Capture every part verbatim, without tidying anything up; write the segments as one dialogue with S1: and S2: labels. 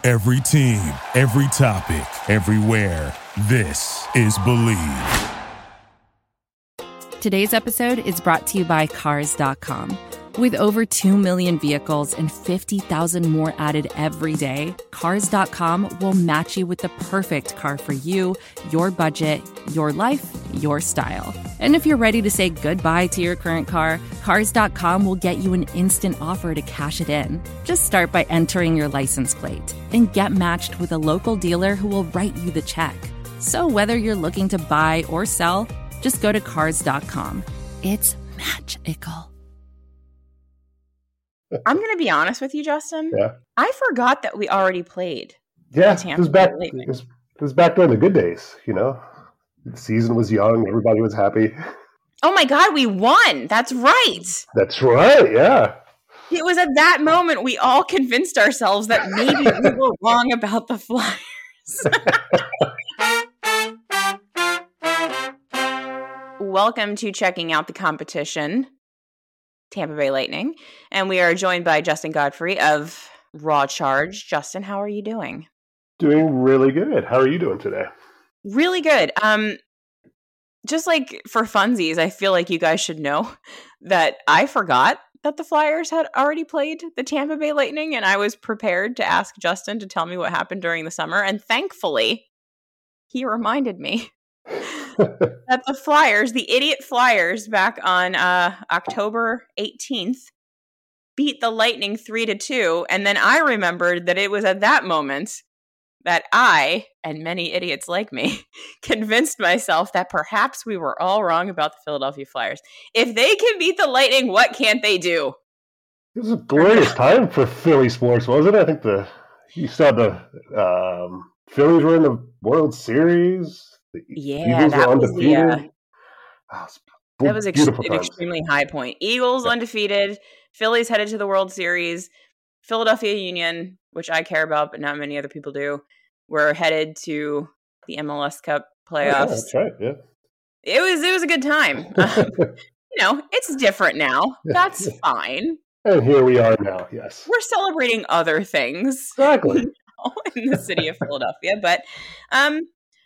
S1: Every team, every topic, everywhere. This is Believe.
S2: Today's episode is brought to you by Cars dot com. With over two million vehicles and fifty thousand more added every day, Cars dot com will match you with the perfect car for you, your budget, your life, your style. And if you're ready to say goodbye to your current car, Cars dot com will get you an instant offer to cash it in. Just start by entering your license plate and get matched with a local dealer who will write you the check. So whether you're looking to buy or sell, just go to Cars dot com. It's magical.
S3: I'm going to be honest with you, Justin.
S4: Yeah.
S3: I forgot that we already played.
S4: Yeah, it was back. It was, it was back during the good days. You know, the season was young. Everybody was happy.
S3: Oh my God, we won! That's right.
S4: That's right. Yeah.
S3: It was at that moment we all convinced ourselves that maybe we were wrong about the Flyers. Welcome to Checking Out the Competition, Tampa Bay Lightning, and we are joined by Justin Godfrey of Raw Charge. Justin, how are you doing?
S4: Doing really good. How are you doing today?
S3: Really good. Um, just like for funsies, I feel like you guys should know that I forgot that the Flyers had already played the Tampa Bay Lightning, and I was prepared to ask Justin to tell me what happened during the summer, and thankfully, he reminded me that the Flyers, the idiot Flyers, back on uh, October eighteenth, beat the Lightning three to two, and then I remembered that it was at that moment that I, and many idiots like me, convinced myself that perhaps we were all wrong about the Philadelphia Flyers. If they can beat the Lightning, what can't they do?
S4: It was a glorious time for Philly sports, wasn't it? I think the you saw the um, Phillies were in the World Series. The
S3: Yeah,
S4: Eagles
S3: that
S4: were
S3: was the,
S4: undefeated.
S3: uh,
S4: Oh, it's
S3: that was ex-
S4: beautiful
S3: an
S4: times.
S3: extremely high point. Eagles
S4: Yeah.
S3: undefeated, Phillies headed to the World Series, Philadelphia Union, which I care about, but not many other people do, we're headed to the M L S Cup
S4: Oh, yeah,
S3: playoffs.
S4: that's right. Yeah.
S3: It was it was a good time. Um, you know, it's different now. That's fine.
S4: And here we are now. Yes.
S3: We're celebrating other things
S4: Exactly.
S3: in the city of Philadelphia, but um,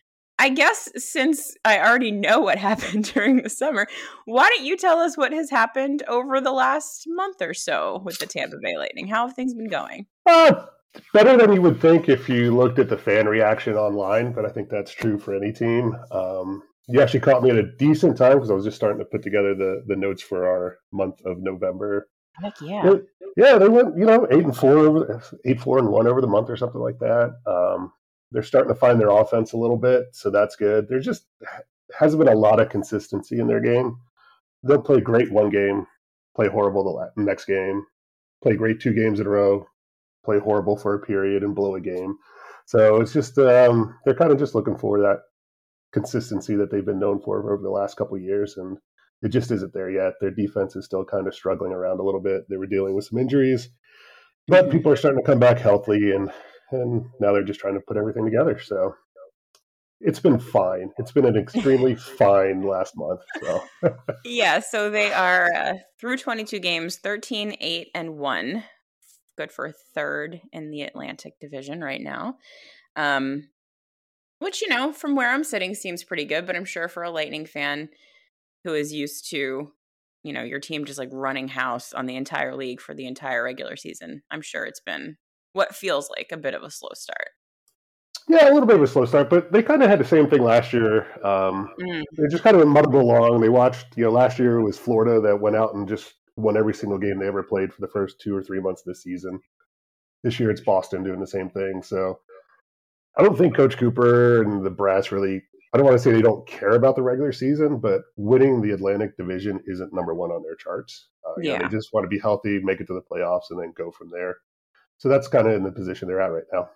S3: I guess since I already know what happened during the summer, why don't you tell us what has happened over the last month or so with the Tampa Bay Lightning? How have things been going?
S4: Uh, better than you would think if you looked at the fan reaction online, but I think that's true for any team. Um, you actually caught me at a decent time because I was just starting to put together the, the notes for our month of November.
S3: Heck yeah.
S4: They- yeah, they went, you know, eight and four, over, eight four and one over the month or something like that. Um, they're starting to find their offense a little bit, so that's good. There just hasn't been a lot of consistency in their game. They'll play great one game, play horrible the la- next game, play great two games in a row, play horrible for a period and blow a game. So it's just um, they're kind of just looking for that consistency that they've been known for over the last couple of years, and it just isn't there yet. Their defense is still kind of struggling around a little bit. They were dealing with some injuries, but
S3: Mhm.
S4: people are starting to come back healthy, and and now they're just trying to put everything together. So it's been fine. It's been an extremely fine last month. So
S3: Yeah, so they are uh, through twenty-two games, thirteen, eight, and one. Good for third in the Atlantic Division right now. Um, which, you know, from where I'm sitting seems pretty good, but I'm sure for a Lightning fan who is used to, you know, your team just like running house on the entire league for the entire regular season, I'm sure it's been what feels like a bit of a slow start.
S4: yeah, a little bit of a slow start, but they kind of had the same thing last year. Um,
S3: Mm.
S4: they just kind of muddled along. They watched, you know, last year it was Florida that went out and just won every single game they ever played for the first two or three months of the season. This year it's Boston doing the same thing. So I don't think Coach Cooper and the Brass really, I don't want to say they don't care about the regular season, but winning the Atlantic Division isn't number one on their charts. Uh, you know,
S3: Yeah.
S4: they just want to be healthy, make it to the playoffs, and then go from there. So that's kind of in the position they're at right now.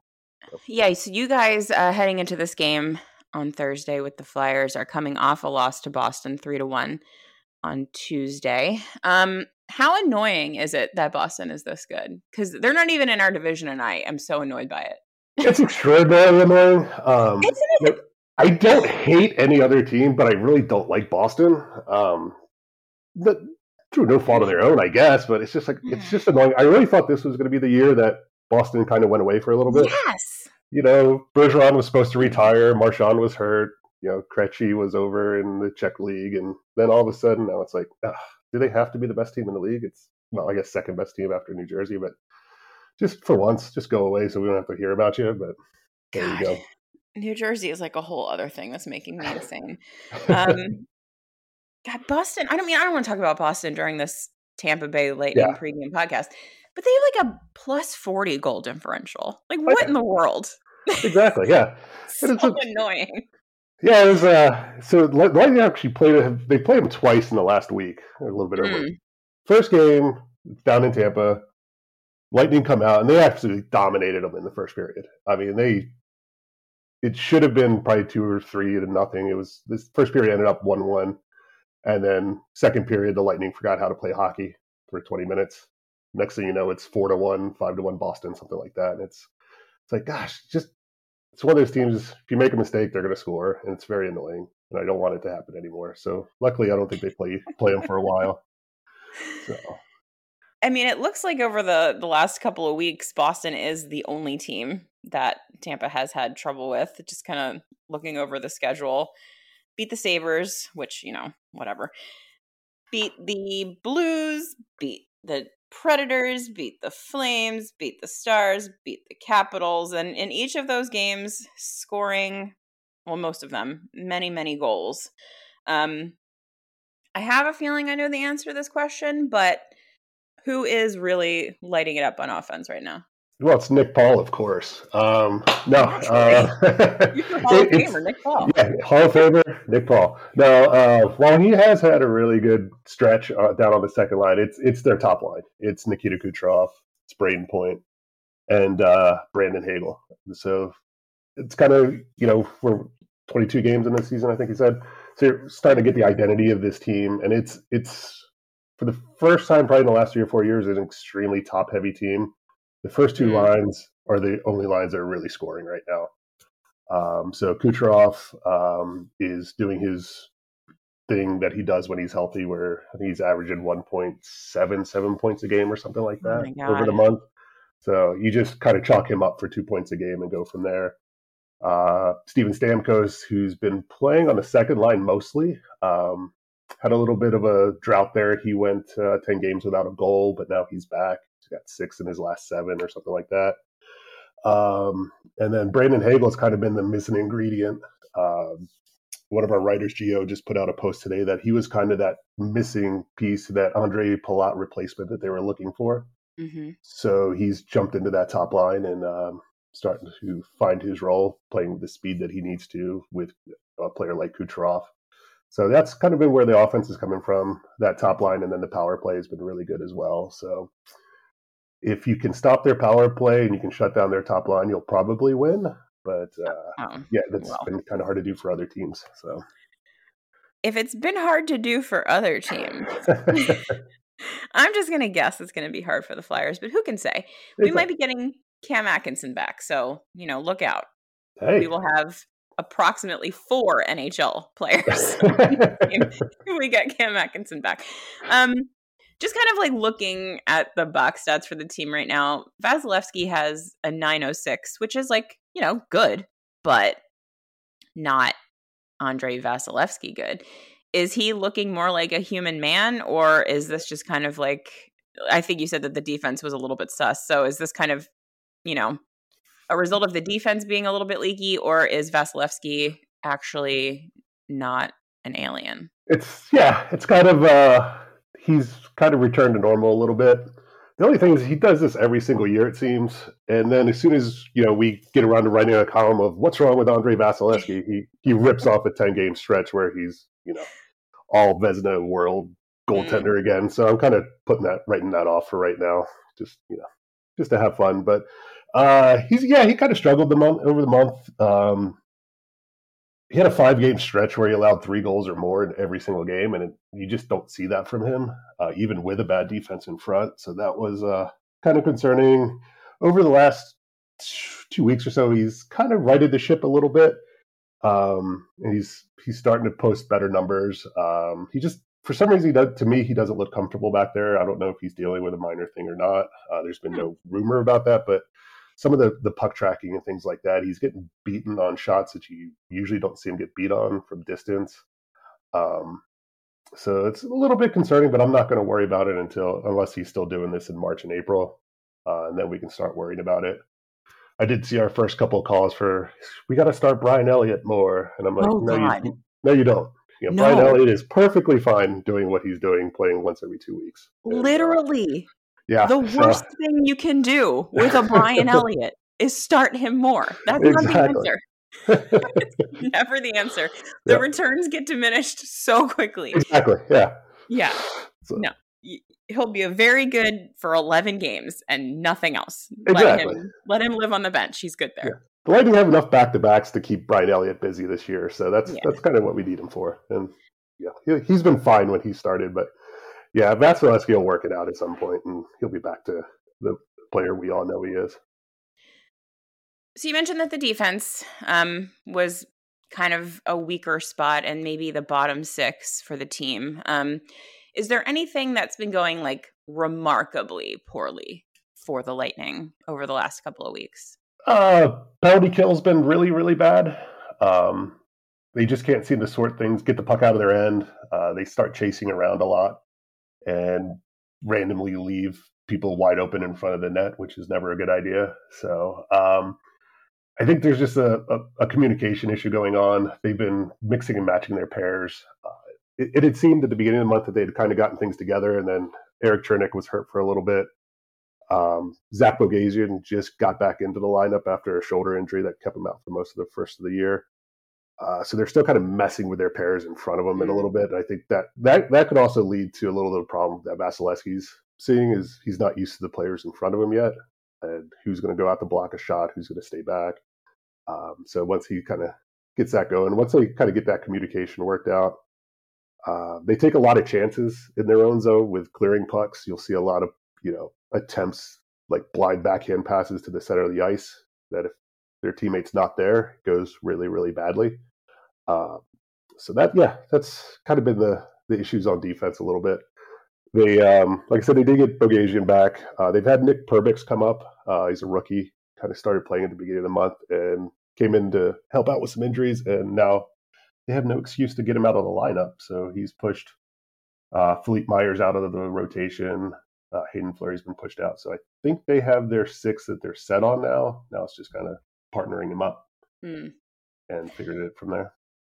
S3: Yeah, so you guys uh, heading into this game on Thursday with the Flyers are coming off a loss to Boston three to one on Tuesday. Um, how annoying is it that Boston is this good? Because they're not even in our division, and I am so annoyed by it.
S4: It's extraordinarily annoying. Um,
S3: Isn't it?
S4: I don't hate any other team, but I really don't like Boston. Um, but through no fault of their own, I guess. But it's just like it's just annoying. I really thought this was going to be the year that Boston kind of went away for a little bit.
S3: Yes.
S4: You know, Bergeron was supposed to retire. Marchand was hurt. You know, Krejci was over in the Czech league. And then all of a sudden, now it's like, ugh, do they have to be the best team in the league? It's, well, I guess second best team after New Jersey. But just for once, just go away so we don't have to hear about you. But there
S3: God.
S4: you go.
S3: New Jersey is like a whole other thing that's making me insane. Um, God, Boston. I don't mean, I don't want to talk about Boston during this Tampa Bay Lightning
S4: Yeah.
S3: pregame podcast, but they have like a plus forty goal differential. Like, what
S4: Okay.
S3: in the world?
S4: Exactly, yeah.
S3: So
S4: And it's a-
S3: annoying.
S4: Yeah, it was. Uh, so the Lightning actually played. They played them twice in the last week, a little bit over.
S3: Mm.
S4: First game down in Tampa, Lightning come out and they absolutely dominated them in the first period. I mean, they. It should have been probably two or three to nothing. It was this first period ended up one one, and then second period the Lightning forgot how to play hockey for twenty minutes. Next thing you know, it's four to one, five to one Boston, something like that. And it's it's like, gosh, just. It's one of those teams, if you make a mistake, they're going to score, and it's very annoying, and I don't want it to happen anymore. So luckily, I don't think they play play them for a while. So,
S3: I mean, it looks like over the, the last couple of weeks, Boston is the only team that Tampa has had trouble with. Just kind of looking over the schedule. Beat the Sabres, which, you know, whatever. Beat the Blues, beat the Predators, beat the Flames, beat the Stars, beat the Capitals, and in each of those games, scoring, well, most of them, many, many goals. Um, I have a feeling I know the answer to this question, but who is really lighting it up on offense right now?
S4: well, it's Nick Paul, of course. Um, no, uh,
S3: You're Hall of
S4: it- it's-
S3: Famer, Nick Paul.
S4: yeah, Hall of Famer Nick Paul. No, uh, while he has had a really good stretch uh, down on the second line, it's it's their top line. It's Nikita Kucherov, it's Braden Point, and uh, Brandon Hagel. So it's kind of, you know, we're twenty-two games in this season, I think he said. So you're starting to get the identity of this team, and it's it's for the first time probably in the last three or four years, an extremely top heavy team. The first two
S3: Mm.
S4: lines are the only lines that are really scoring right now. Um, so Kucherov um, is doing his thing that he does when he's healthy, where I think he's averaging one point seven seven points a game or something like
S3: Oh
S4: that
S3: my God.
S4: over the month. So you just kind of chalk him up for two points a game and go from there. Uh, Steven Stamkos, who's been playing on the second line mostly, um, had a little bit of a drought there. He went uh, ten games without a goal, but now he's back. He's got six in his last seven or something like that. Um, and then Brandon Hagel's kind of been the missing ingredient. Um, one of our writers, Gio, just put out a post today that he was kind of that missing piece, that Andre Palat replacement that they were looking for.
S3: Mm-hmm.
S4: So he's jumped into that top line and um, starting to find his role, playing with the speed that he needs to with a player like Kucherov. So that's kind of been where the offense is coming from, that top line, and then the power play has been really good as well. So if you can stop their power play and you can shut down their top line, you'll probably win. But uh,
S3: Oh.
S4: yeah, that's
S3: Well.
S4: been kind of hard to do for other teams. So
S3: If it's been hard to do for other teams, I'm just going to guess it's going to be hard for the Flyers, but who can say? We
S4: It's
S3: might
S4: like,
S3: be getting Cam Atkinson back, so, you know, look out.
S4: hey,
S3: We will have approximately four N H L players if we get Cam Atkinson back. Um, just kind of like looking at the box stats for the team right now, Vasilevsky has a nine oh six, which is like, you know, good, but not Andrei Vasilevsky good. Is he looking more like a human man, or is this just kind of like, I think you said that the defense was a little bit sus. So is this kind of, you know, a result of the defense being a little bit leaky, or is Vasilevsky actually not an alien?
S4: it's yeah, it's kind of uh, he's kind of returned to normal a little bit. The only thing is he does this every single year, it seems. And then as soon as, you know, we get around to writing a column of what's wrong with Andrei Vasilevsky, he he rips off a ten-game stretch where he's, you know, all Vezina world goaltender again. So I'm kind of putting that, writing that off for right now, just, you know, just to have fun. But uh, he's, yeah, he kind of struggled the month over the month. Um, he had a five-game stretch where he allowed three goals or more in every single game, and it, you just don't see that from him, uh, even with a bad defense in front. So that was uh, kind of concerning. Over the last two weeks or so, he's kind of righted the ship a little bit. Um, and he's he's starting to post better numbers. Um, he just for some reason, he does, to me, he doesn't look comfortable back there. I don't know if he's dealing with a minor thing or not. Uh, there's been no rumor about that, but some of the, the puck tracking and things like that, he's getting beaten on shots that you usually don't see him get beat on from distance. Um, so it's a little bit concerning, but I'm not going to worry about it until unless he's still doing this in March and April, uh, and then we can start worrying about it. I did see our first couple of calls for we got to start Brian Elliott more, and I'm like,
S3: Oh,
S4: no,
S3: God.
S4: you, no, you don't. You know,
S3: No.
S4: Brian Elliott is perfectly fine doing what he's doing, playing once every two weeks. And, uh,
S3: Literally.
S4: yeah,
S3: The
S4: so-
S3: worst thing you can do with a Brian Elliott is start him more. That's not the
S4: Exactly.
S3: answer. It's never the answer. The
S4: Yeah.
S3: returns get diminished so quickly.
S4: Exactly. Yeah.
S3: Yeah.
S4: So-
S3: No. Y- He'll be a very good for eleven games and nothing else.
S4: Exactly.
S3: Let him let him live on the bench. He's good there.
S4: The Lightning have enough back to backs to keep Brian Elliott busy this year, so that's
S3: Yeah.
S4: that's kind of what we need him for. And yeah, he, he's been fine when he started, but yeah, Vasilevsky will work it out at some point, and he'll be back to the player we all know he is.
S3: So you mentioned that the defense um, was kind of a weaker spot and maybe the bottom six for the team. Um, is there anything that's been going like remarkably poorly for the Lightning over the last couple of weeks?
S4: Uh, penalty kill's been really, really bad. Um, they just can't seem to sort things, get the puck out of their end. Uh, they start chasing around a lot and randomly leave people wide open in front of the net, which is never a good idea. So um, I think there's just a, a, a communication issue going on. They've been mixing and matching their pairs. Uh, it, it had seemed at the beginning of the month that they'd kind of gotten things together, and then Eric Chernick was hurt for a little bit. Um, Zach Bogasian just got back into the lineup after a shoulder injury that kept him out for most of the first of the year. Uh, so they're still kind of messing with their pairs in front of them in a little bit. And I think that, that that could also lead to a little bit of problem that Vasilevsky's seeing is he's not used to the players in front of him yet, and who's going to go out to block a shot, who's going to stay back. Um, so once he kind of gets that going, once they kind of get that communication worked out, uh, they take a lot of chances in their own zone with clearing pucks. You'll see a lot of, you know, attempts like blind backhand passes to the center of the ice that if their teammate's not there, it goes really, really badly. Uh, so that, yeah, that's kind of been the, the issues on defense a little bit. They, um, like I said, they did get Bogasian back. Uh, they've had Nick Perbix come up. Uh, he's a rookie, kind of started playing at the beginning of the month and came in to help out with some injuries. And now they have no excuse to get him out of the lineup. So he's pushed uh, Philippe Myers out of the rotation. Uh, Hayden Fleury's been pushed out. So I think they have their six that they're set on now. Now it's just kind of partnering him up
S3: Hmm.
S4: and figuring it from there.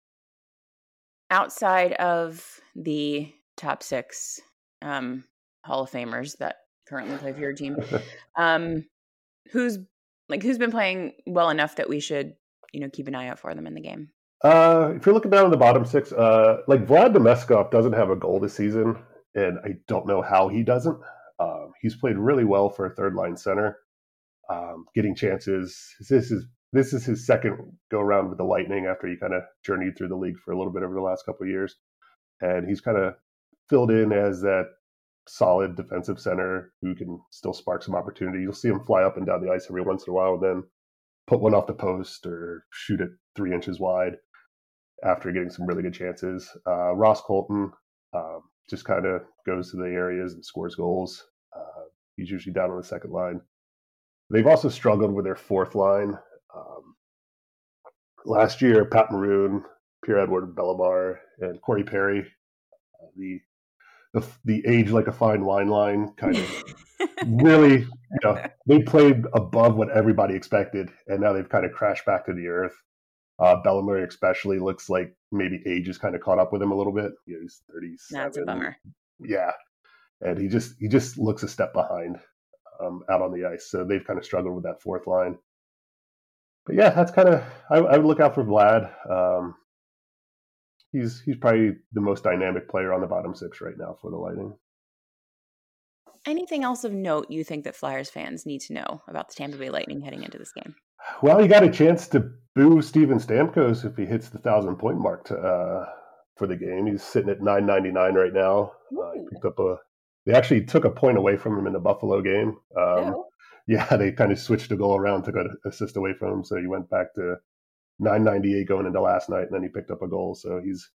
S3: Outside of the top six um, Hall of Famers that currently play for your team, um, who's like who's been playing well enough that we should, you know, keep an eye out for them in the game?
S4: Uh, if you're looking down at the bottom six, uh, like Vlad Domeskov doesn't have a goal this season, and I don't know how he doesn't. Um, he's played really well for a third line center, um, getting chances. This is this is his second go around with the Lightning after he kind of journeyed through the league for a little bit over the last couple of years, and he's kind of filled in as that solid defensive center who can still spark some opportunity. You'll see him fly up and down the ice every once in a while, and then put one off the post or shoot it three inches wide after getting some really good chances. Uh, Ross Colton um, just kind of goes to the areas and scores goals. Uh, he's usually down on the second line. They've also struggled with their fourth line. Um, last year, Pat Maroon, Pierre-Edouard Bellemare, and Corey Perry, uh, the, the the age like a fine wine line, kind of really, you know, they played above what everybody expected, and now they've kind of crashed back to the earth. Uh, Bellemare especially looks like maybe age has kind of caught up with him a little bit. You know, he's thirty-seven.
S3: That's a bummer.
S4: Yeah, and he just he just looks a step behind um, out on the ice. So they've kind of struggled with that fourth line. But yeah, that's kind of I, I would look out for Vlad. Um, he's he's probably the most dynamic player on the bottom six right now for the Lightning.
S3: Anything else of note you think that Flyers fans need to know about the Tampa Bay Lightning heading into this game?
S4: Well, you got a chance to boo Steven Stamkos if he hits the thousand point mark to, uh, for the game. He's sitting at nine ninety-nine right now. Uh, he picked up a. They actually took a point away from him in the Buffalo game. Um,
S3: Oh.
S4: Yeah, they kind of switched the goal around, took an assist away from him, so he went back to nine ninety-eight going into last night, and then he picked up a goal. So he's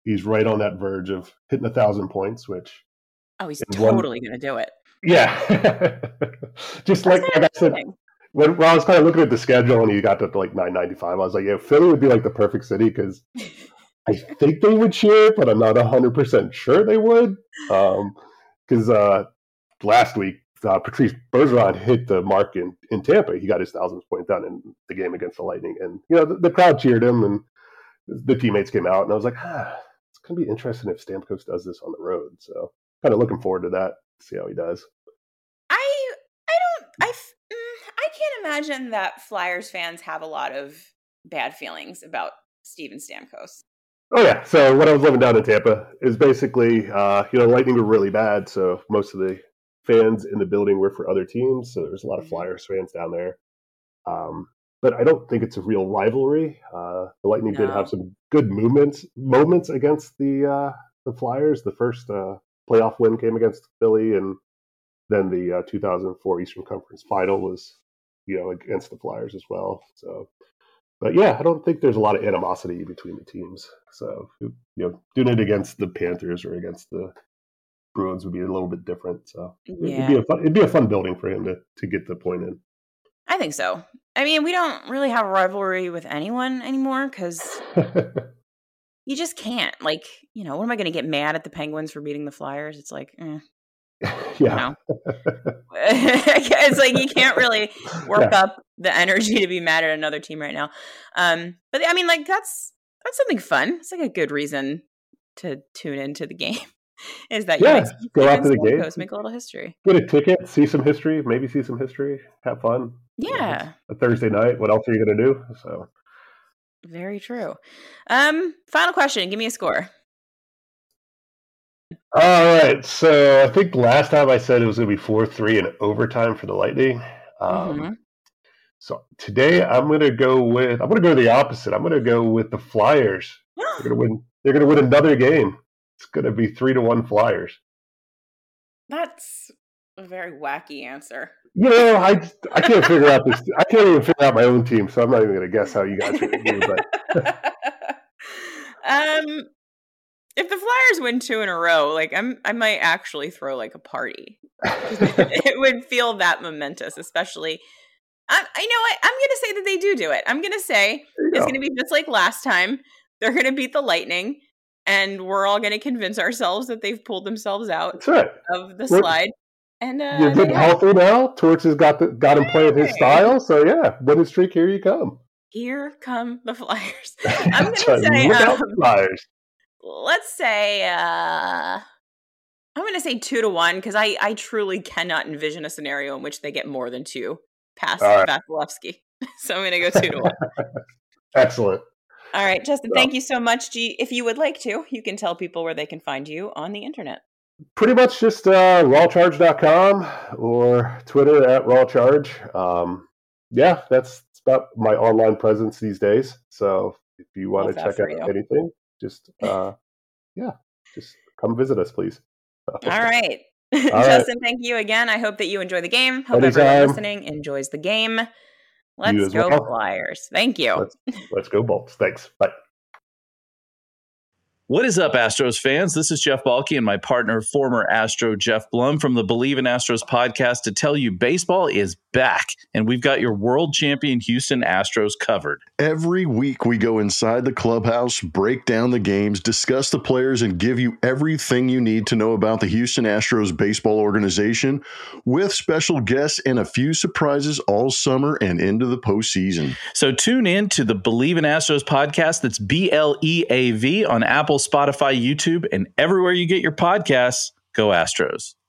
S4: he's right on that verge of hitting a thousand points, which
S3: oh, he's totally going to do it.
S4: Yeah, just like, like I said, when, when I was kind of looking at the schedule and he got to like nine ninety-five, I was like, yeah, Philly would be like the perfect city because I think they would cheer, but I'm not one hundred percent sure they would. Because um, uh, last week, uh, Patrice Bergeron hit the mark in, in Tampa. He got his thousandth point done in the game against the Lightning. And, you know, the, the crowd cheered him and the teammates came out. And I was like, ah, it's going to be interesting if Stamkos does this on the road. So kind of looking forward to that, see how he does.
S3: I I don't, I, I can't imagine that Flyers fans have a lot of bad feelings about Steven Stamkos.
S4: Oh, yeah. So when I was living down in Tampa, it was basically, uh, you know, Lightning were really bad. So most of the fans in the building were for other teams. So there's a lot of Flyers fans down there. Um, but I don't think it's a real rivalry. Uh, the Lightning no. did have some good movements, moments against the uh, the Flyers. The first uh, playoff win came against Philly, and then the uh, two thousand four Eastern Conference Final was, you know, against the Flyers as well. So. But yeah, I don't think there's a lot of animosity between the teams. So, you know, doing it against the Panthers or against the Bruins would be a little bit different. So
S3: yeah.
S4: it'd be a fun, it'd be a fun building for him to, to get the point in.
S3: I think so. I mean, we don't really have a rivalry with anyone anymore because you just can't. Like, you know, what am I going to get mad at the Penguins for beating the Flyers? It's like, eh.
S4: Yeah.
S3: You know? It's like you can't really work yeah. up the energy to be mad at another team right now. Um, but I mean, like that's that's something fun. It's like a good reason to tune into the game. Is that
S4: yeah,
S3: you
S4: go out to the game,
S3: make a little history,
S4: get a ticket, see some history, maybe see some history, have fun.
S3: Yeah,
S4: you know, a Thursday night. What else are you going to do? So
S3: very true. Um, final question. Give me a score.
S4: All right, so I think last time I said it was going to be four three in overtime for the Lightning. Um,
S3: mm-hmm.
S4: So today I'm going to go with I'm going to go the opposite. I'm going to go with the Flyers. They're going to win. They're going to win another game. It's going to be three to one Flyers.
S3: That's a very wacky answer.
S4: You know, I I can't figure out this. I can't even figure out my own team, so I'm not even going to guess how you guys are going to do. But
S3: um. If the Flyers win two in a row, like I'm, I might actually throw like a party. It would feel that momentous, especially. I, I know what I'm going to say that they do do it. I'm going to say it's going to be just like last time. They're going to beat the Lightning, and we're all going to convince ourselves that they've pulled themselves out
S4: That's right.
S3: of the
S4: we're,
S3: slide. And uh,
S4: you're getting healthy now. Torch has got the, got him playing his style. So yeah, winning streak. Here you come.
S3: Here come the Flyers. I'm going
S4: right.
S3: to say
S4: Look
S3: um,
S4: out the Flyers.
S3: Let's say, uh, I'm going to say two to one because I, I truly cannot envision a scenario in which they get more than two past right. Vasilevsky. So I'm going to go two to one.
S4: Excellent.
S3: All right, Justin, well, thank you so much. G- if you would like to, you can tell people where they can find you on the internet.
S4: Pretty much just uh, raw charge dot com or Twitter at rawcharge. Um, yeah, that's about my online presence these days. So if you want to check out you. anything, just uh yeah just come visit us, please.
S3: All right. All Justin right. Thank you again. I hope that you enjoy the game. Hope
S4: Anytime.
S3: Everyone listening enjoys the game. Let's go well. Flyers. Thank you.
S4: Let's, let's go Bolts. Thanks. Bye.
S5: What is up, Astros fans? This is Jeff Balke and my partner, former Astro Jeff Blum from the Believe in Astros podcast to tell you baseball is back, and we've got your world champion Houston Astros covered.
S6: Every week we go inside the clubhouse, break down the games, discuss the players, and give you everything you need to know about the Houston Astros baseball organization with special guests and a few surprises all summer and into the postseason.
S5: So tune in to the Believe in Astros podcast. That's B L E A V on Apple, Spotify, YouTube, and everywhere you get your podcasts. Go Astros.